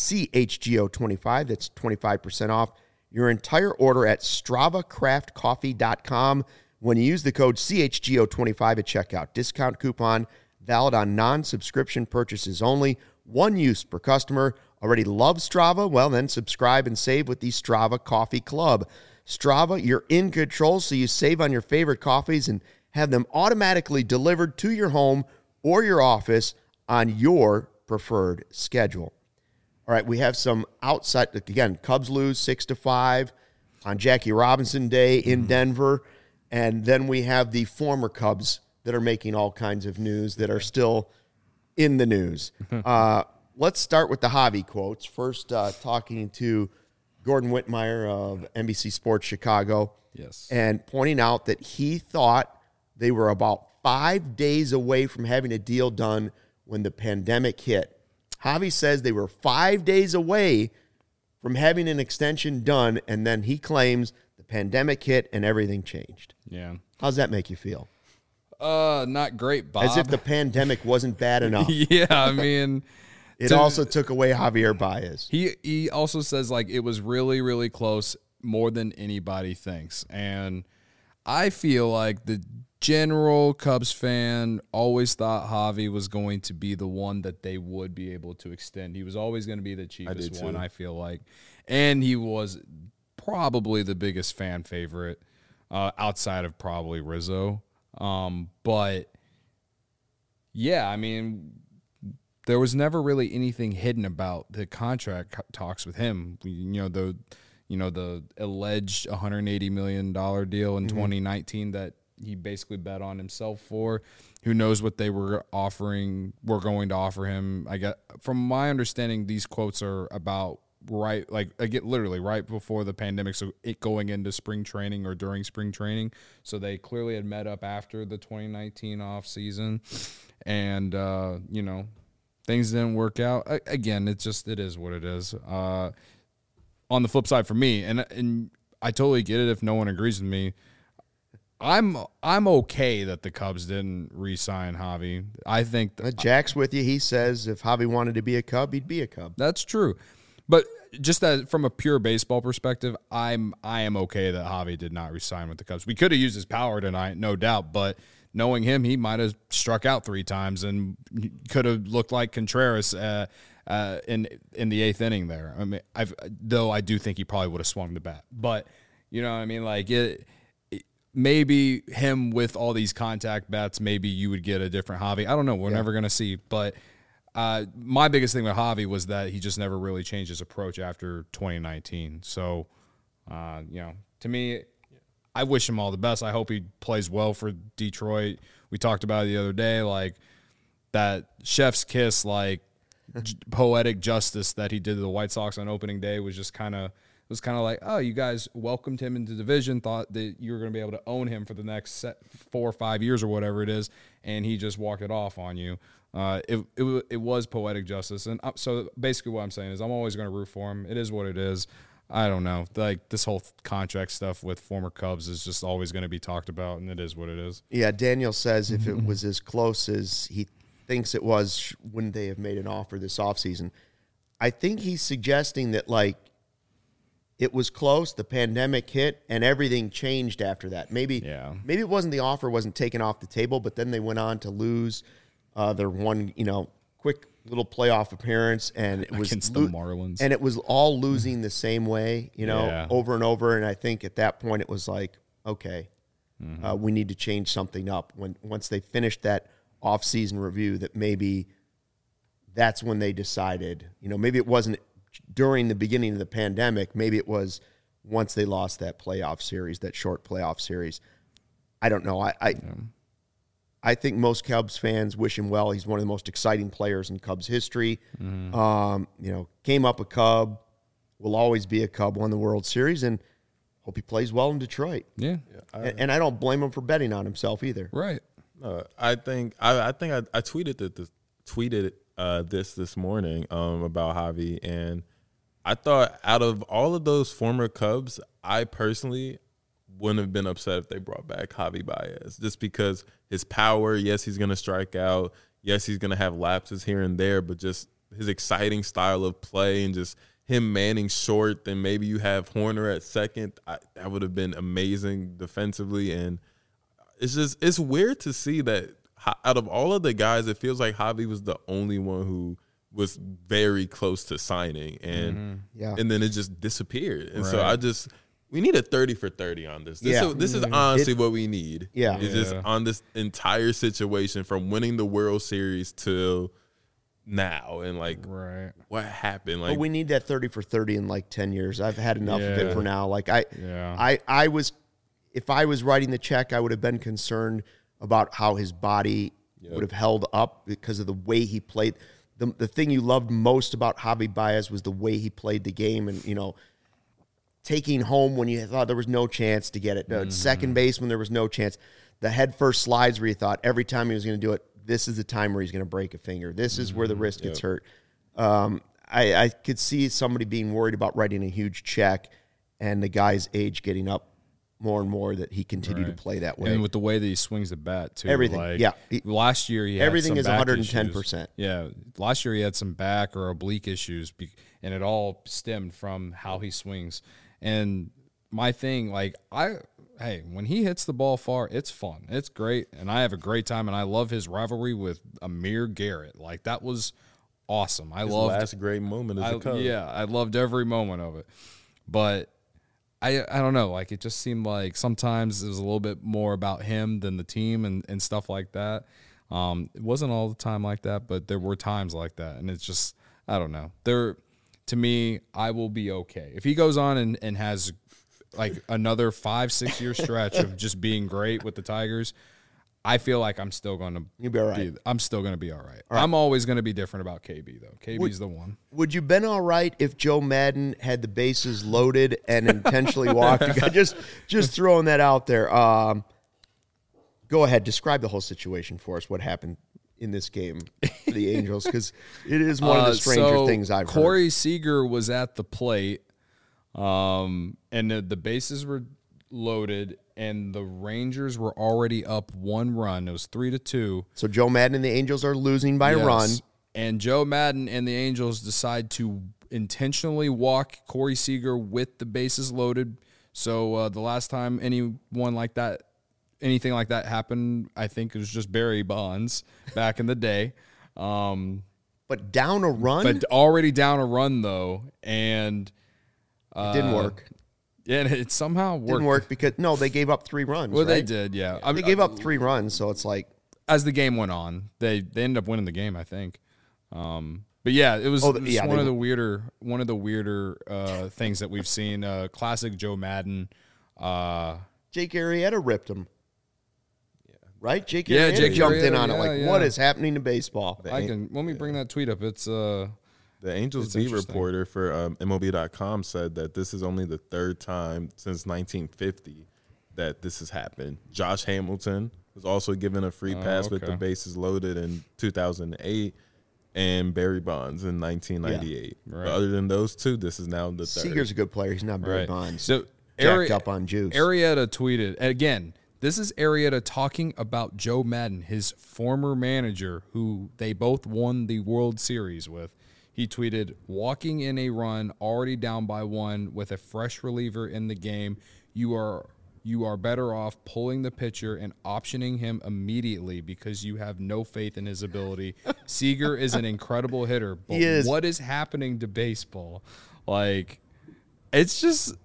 CHGO25. That's 25% off your entire order at StravaCraftCoffee.com when you use the code CHGO25 at checkout. Discount coupon valid on non-subscription purchases only. One use per customer. Already love Strava? Well, then subscribe and save with the Strava Coffee Club. Strava, you're in control, so you save on your favorite coffees and have them automatically delivered to your home or your office on your preferred schedule. All right, we have some outside, again, Cubs lose 6-5 on Jackie Robinson Day in Denver. And then we have the former Cubs that are making all kinds of news that are still in the news. Let's start with the Javi quotes. First, talking to Gordon Whitmire of NBC Sports Chicago. Yes. And pointing out that he thought they were about 5 days away from having a deal done when the pandemic hit. Javi says they were 5 days away from having an extension done, and then he claims the pandemic hit and everything changed. Yeah. How's that make you feel? Not great, Bob. As if the pandemic wasn't bad enough. Yeah, I mean, It also took away Javier Baez. he also says like it was really, really close, more than anybody thinks. And I feel like the general Cubs fan always thought Javi was going to be the one that they would be able to extend. He was always going to be the cheapest one, I feel like. And he was probably the biggest fan favorite outside of probably Rizzo. But yeah, I mean, there was never really anything hidden about the contract talks with him. The alleged $180 million deal in 2019 that he basically bet on himself for. Who knows what they were going to offer him. I got, from my understanding, these quotes are about right, like I get literally right before the pandemic, so it going into spring training or during spring training. So they clearly had met up after the 2019 off season, and you know, things didn't work out. Again, it is what it is. On the flip side for me, and I totally get it if no one agrees with me. I'm okay that the Cubs didn't re-sign Javi. I think Jack's with you. He says if Javi wanted to be a Cub, he'd be a Cub. That's true. But just that from a pure baseball perspective, I am okay that Javi did not re-sign with the Cubs. We could have used his power tonight, no doubt, but knowing him, he might have struck out 3 times and could have looked like Contreras in the 8th inning there. I mean, though I do think he probably would have swung the bat. But you know what I mean? Like maybe him with all these contact bats, maybe you would get a different Javi. I don't know. We're never going to see. But my biggest thing with Javi was that he just never really changed his approach after 2019. So, you know, to me, I wish him all the best. I hope he plays well for Detroit. We talked about it the other day, like that chef's kiss, like poetic justice that he did to the White Sox on opening day was just kind of – it was kind of like, oh, you guys welcomed him into the division, thought that you were going to be able to own him for the next 4 or 5 years or whatever it is, and he just walked it off on you. It was poetic justice. And so basically what I'm saying is I'm always going to root for him. It is what it is. I don't know. Like this whole contract stuff with former Cubs is just always going to be talked about, and it is what it is. Yeah, Daniel says if it was as close as he thinks it was, wouldn't they have made an offer this offseason? I think he's suggesting that, like, it was close, the pandemic hit, and everything changed after that. Maybe it wasn't the offer wasn't taken off the table, but then they went on to lose their one, quick little playoff appearance, and it was against the Marlins. And it was all losing the same way, over and over. And I think at that point it was like, okay, we need to change something up. Once they finished that off-season review, that maybe that's when they decided, maybe it wasn't during the beginning of the pandemic. Maybe it was once they lost that playoff series, that short playoff series. I don't know. I think most Cubs fans wish him well. He's one of the most exciting players in Cubs history. Came up a Cub, will always be a Cub, won the World Series, and hope he plays well in Detroit. Yeah. And I don't blame him for betting on himself either. Right. I think I tweeted this morning about Javi, and I thought out of all of those former Cubs, I personally wouldn't have been upset if they brought back Javi Baez, just because his power, yes, he's going to strike out, yes, he's going to have lapses here and there, but just his exciting style of play and just him manning short, then maybe you have Horner at second. That would have been amazing defensively, and it's weird to see that out of all of the guys, it feels like Javi was the only one who was very close to signing, and and then it just disappeared. And so we need a 30 for 30 on this. This is honestly what we need. Yeah. It's just on this entire situation from winning the World Series till now, and what happened. But we need that 30 for 30 in 10 years. I've had enough of it for now. I was, if I was writing the check, I would have been concerned about how his body would have held up because of the way he played. The thing you loved most about Javi Baez was the way he played the game, and taking home when you thought there was no chance to get it, second base when there was no chance, the head first slides where you thought every time he was going to do it, this is the time where he's going to break a finger. This is where the wrist gets hurt. I could see somebody being worried about writing a huge check and the guy's age getting up more and more, that he continued to play that way. And with the way that he swings the bat, too. Everything, last year he had everything is 110%. Issues. Yeah, last year he had some back or oblique issues, and it all stemmed from how he swings. And my thing, when he hits the ball far, it's fun. It's great, and I have a great time, and I love his rivalry with Amir Garrett. That was awesome. His last great moment as a Cub. Yeah, I loved every moment of it. But I don't know. It just seemed like sometimes it was a little bit more about him than the team and stuff like that. It wasn't all the time like that, but there were times like that. And it's just, I don't know. To me, I will be okay. If he goes on and has another 5-6 year stretch of just being great with the Tigers, I feel like I'm still going to You'll be all right. I'm still going to be all right. I'm always going to be different about KB though. KB's the one. Would you been all right if Joe Madden had the bases loaded and intentionally walked? Just throwing that out there. Go ahead, describe the whole situation for us. What happened in this game for the Angels? Because it is one of the stranger things I've heard. Corey Seager was at the plate, and the bases were loaded, and the Rangers were already up 1 run. It was 3-2. So Joe Madden and the Angels are losing by a run. And Joe Madden and the Angels decide to intentionally walk Corey Seager with the bases loaded. So the last time anything like that happened, I think it was just Barry Bonds back in the day. But down a run? But already down a run, though. And it didn't work. Yeah, and it somehow worked. Didn't work because, no, they gave up 3 runs, Well, right? they did, yeah. They gave up 3 runs, so it's like. As the game went on, they ended up winning the game, I think. But yeah, it was, one of the weirder things that we've seen. Classic Joe Madden. Jake Arrieta ripped him. Right? Jake Arrieta jumped in on it. What is happening to baseball? Let me bring that tweet up. It's the Angels beat reporter for MLB.com said that this is only the 3rd time since 1950 that this has happened. Josh Hamilton was also given a free pass with the bases loaded in 2008, and Barry Bonds in 1998. Yeah, right. But other than those 2, this is now the 3rd. Seager's a good player. He's not Barry Bonds. So jacked up on juice. Arrieta tweeted, and again, this is Arrieta talking about Joe Madden, his former manager, who they both won the World Series with. He tweeted, walking in a run, already down by 1 with a fresh reliever in the game, you are better off pulling the pitcher and optioning him immediately because you have no faith in his ability. Seager is an incredible hitter, but what is happening to baseball? Like, it's just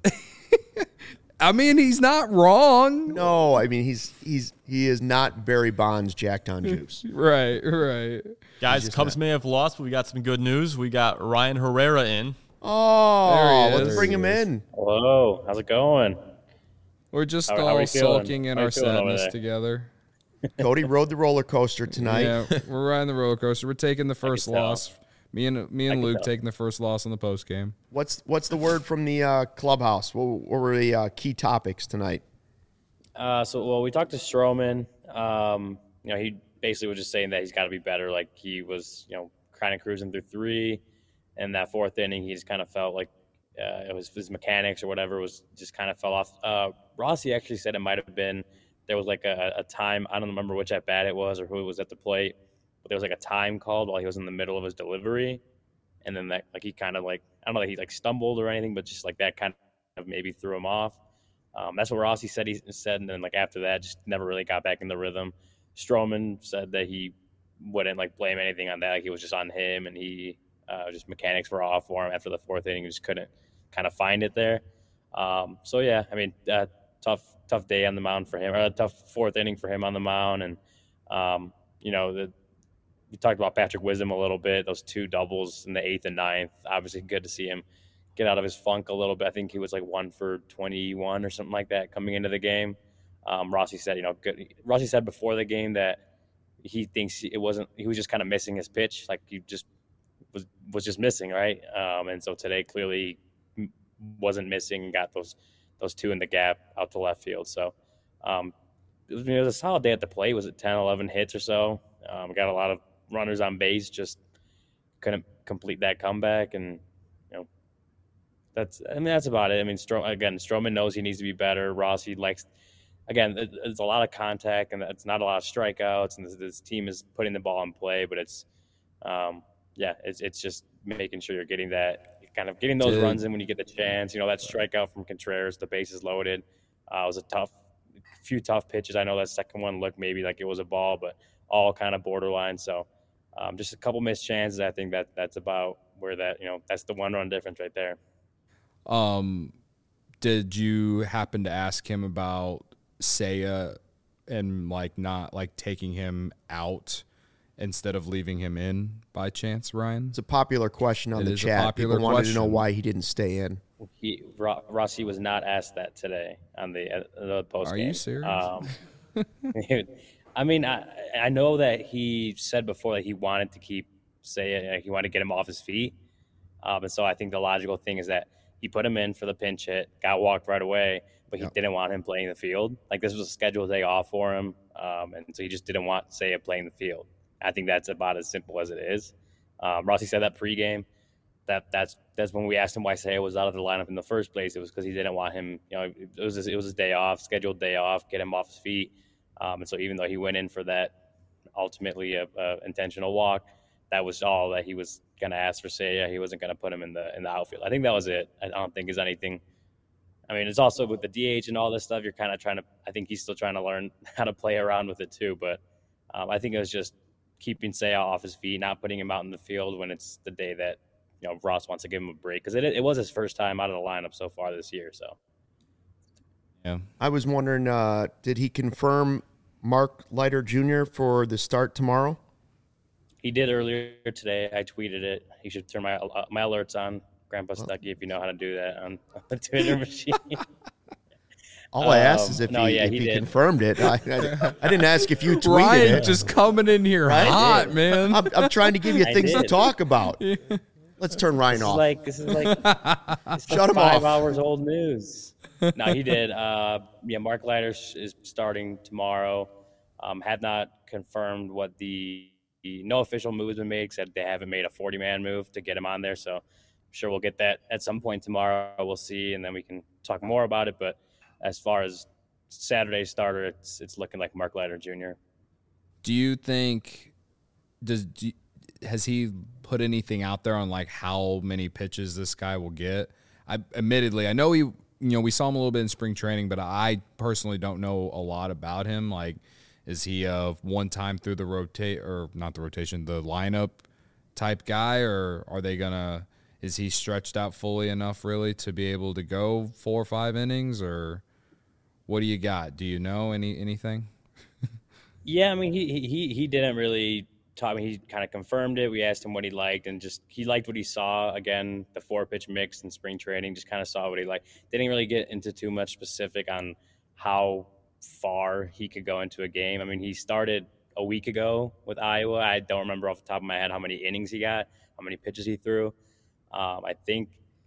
I mean, he's not wrong. No, I mean he is not Barry Bonds jacked on juice. Right. Guys, Cubs may have lost, but we got some good news. We got Ryan Herrera in. Oh, let's bring him in. Hello, how's it going? We're just all sulking in our sadness together. Cody rode the roller coaster tonight. Yeah, we're riding the roller coaster. We're taking the first loss. Me and Luke taking the first loss in the post game. What's the word from the clubhouse? What were the key topics tonight? We talked to Stroman. He basically was just saying that he's got to be better. Like he was, kind of cruising through 3, and that 4th inning, he just kind of felt like it was his mechanics or whatever was just kind of fell off. Rossi actually said it might have been there was like a time, I don't remember which at bat it was or who was at the plate, but there was like a time called while he was in the middle of his delivery, and then that he kind of I don't know that he stumbled or anything, but just that kind of maybe threw him off. That's what Rossi said. He said, and then after that, just never really got back in the rhythm. Stroman said that he wouldn't blame anything on that. He was just on him, and he just mechanics were off for him after the 4th inning. He just couldn't kind of find it there. Tough day on the mound for him, or a tough 4th inning for him on the mound. And, we talked about Patrick Wisdom a little bit, those 2 doubles in the 8th and 9th. Obviously good to see him get out of his funk a little bit. I think he was 1 for 21 or something like that coming into the game. Rossi said, good. Rossi said before the game that he thinks he was just kind of missing his pitch. He just was just missing. Right. And so today clearly wasn't missing and got those 2 in the gap out to left field. So it was a solid day at the plate. Was it 10, 11 hits or so? Got a lot of runners on base, just couldn't complete that comeback. And, that's about it. Stroman knows he needs to be better. Rossi likes, it's a lot of contact and it's not a lot of strikeouts. And this team is putting the ball in play, but it's just making sure you're getting that, kind of getting those runs in when you get the chance. That strikeout from Contreras, the bases loaded, was a few tough pitches. I know that second one looked maybe like it was a ball, but all kind of borderline. So just a couple missed chances. I think that's about where that's the 1 run difference right there. Did you happen to ask him about Seiya and not taking him out instead of leaving him in by chance, Ryan? It's a popular question on the chat. People wanted to know why he didn't stay in. Rossi was not asked that today on the post game. Are you serious? I mean, I know that he said before that he wanted to keep Seiya, he wanted to get him off his feet. And so I think the logical thing is that he put him in for the pinch hit, got walked right away, but he didn't want him playing the field. Like, this was a scheduled day off for him, and so he just didn't want Seiya playing the field. I think that's about as simple as it is. Rossi said that pregame. That's when we asked him why Seiya was out of the lineup in the first place. It was because he didn't want him. It was his day off, scheduled day off, get him off his feet. And so even though he went in for that, ultimately a intentional walk, that was all that he was going to ask for Seiya. He wasn't going to put him in the outfield. I think that was it. I don't think there's anything. I mean, it's also with the DH and all this stuff, you're kind of trying to, I think he's still trying to learn how to play around with it too. But I think it was just keeping Seiya off his feet, not putting him out in the field when it's the day that, Ross wants to give him a break. Because it was his first time out of the lineup so far this year. So, yeah. I was wondering, did he confirm Mark Leiter Jr. for the start tomorrow? He did earlier today. I tweeted it. He should turn my alerts on, Grandpa Stuckey, if you know how to do that on the Twitter machine. All I asked is if he confirmed it. I didn't ask if you tweeted Ryan it. just coming in here hot, man. I'm trying to give you things to talk about. Let's turn Ryan off. This is like Shut him 5 off. hours old news. No, he did. Mark Leiter is starting tomorrow. Had not confirmed what no official move has been made, except they haven't made a 40-man move to get him on there. So I'm sure we'll get that at some point tomorrow. We'll see, and then we can talk more about it. But as far as Saturday's starter, it's looking like Mark Leiter Jr. Do you think has he put anything out there on like how many pitches this guy will get? I know he, we saw him a little bit in spring training, but I personally don't know a lot about him. Like, is he a one-time through the the lineup type guy, or are they gonna? Is he stretched out fully enough really to be able to go 4 or 5 innings, or what do you got? Do you know anything? Yeah, I mean, he didn't really talk. I mean, he kind of confirmed it. We asked him what he liked, and he liked what he saw. Again, the 4-pitch mix in spring training, just kind of saw what he liked. Didn't really get into too much specific on how far he could go into a game. I mean, he started a week ago with Iowa. I don't remember off the top of my head how many innings he got, how many pitches he threw. I think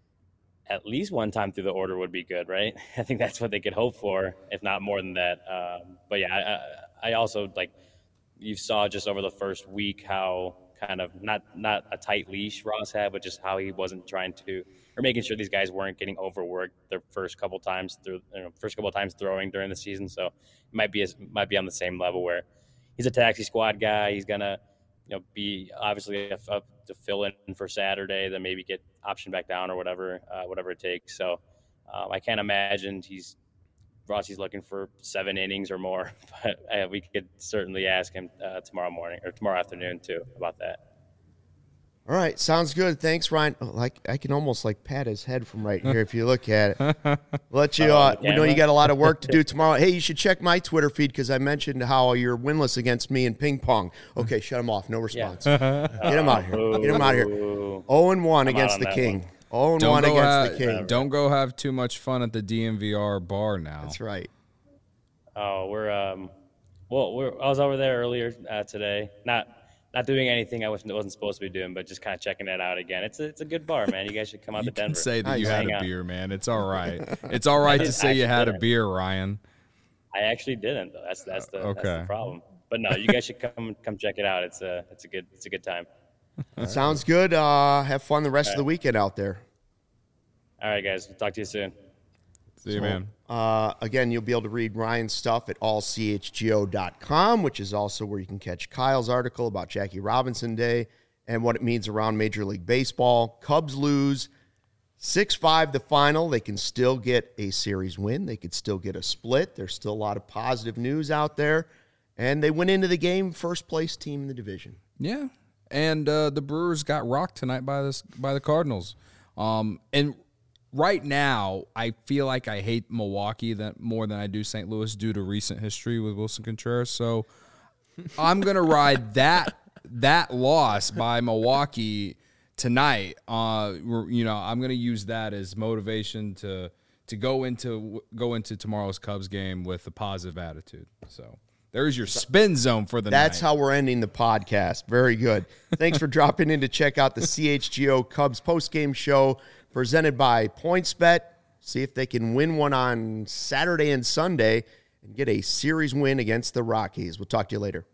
at least one time through the order would be good, right? I think that's what they could hope for, if not more than that. But yeah, I also, like, you saw just over the first week how kind of not a tight leash Ross had, but just how he wasn't trying to, or making sure these guys weren't getting overworked their first couple times throwing during the season. So it might be on the same level where he's a taxi squad guy. He's gonna, be obviously to fill in for Saturday, then maybe get optioned back down or whatever it takes. So I can't imagine Rossi's looking for 7 innings or more, but we could certainly ask him tomorrow morning or tomorrow afternoon too about that. All right, sounds good. Thanks, Ryan. Like, I can almost pat his head from right here if you look at it. Let you. We know you got a lot of work to do tomorrow. Hey, you should check my Twitter feed because I mentioned how you're winless against me in ping pong. Okay, shut him off. No response. Get him out of here. Get him out of here. 0-1 against the King. 0-1 against the King. Don't go have too much fun at the DMVR bar now. That's right. Oh, I was over there earlier today. Not doing anything I wasn't supposed to be doing, but just kind of checking it out again. It's a good bar, man. You guys should come out to Denver. You can say that you had a beer, man. It's all right. It's all right to say you had a beer, Ryan. I actually didn't, though. That's the problem. But no, you guys should come check it out. It's a good time. Sounds good. Have fun the rest of the weekend out there. All right, guys. We'll talk to you soon. See you, man. Again, you'll be able to read Ryan's stuff at allchgo.com, which is also where you can catch Kyle's article about Jackie Robinson Day and what it means around Major League Baseball. Cubs lose 6-5 the final. They can still get a series win. They could still get a split. There's still a lot of positive news out there. And they went into the game first-place team in the division. Yeah. And the Brewers got rocked tonight by the Cardinals. And right now, I feel like I hate Milwaukee more than I do St. Louis due to recent history with Wilson Contreras. So I'm going to ride that loss by Milwaukee tonight. I'm going to use that as motivation to go into tomorrow's Cubs game with a positive attitude. So There's your spin zone for the night. That's how we're ending the podcast. Very good. Thanks for dropping in to check out the CHGO Cubs postgame show presented by PointsBet. See if they can win one on Saturday and Sunday and get a series win against the Rockies. We'll talk to you later.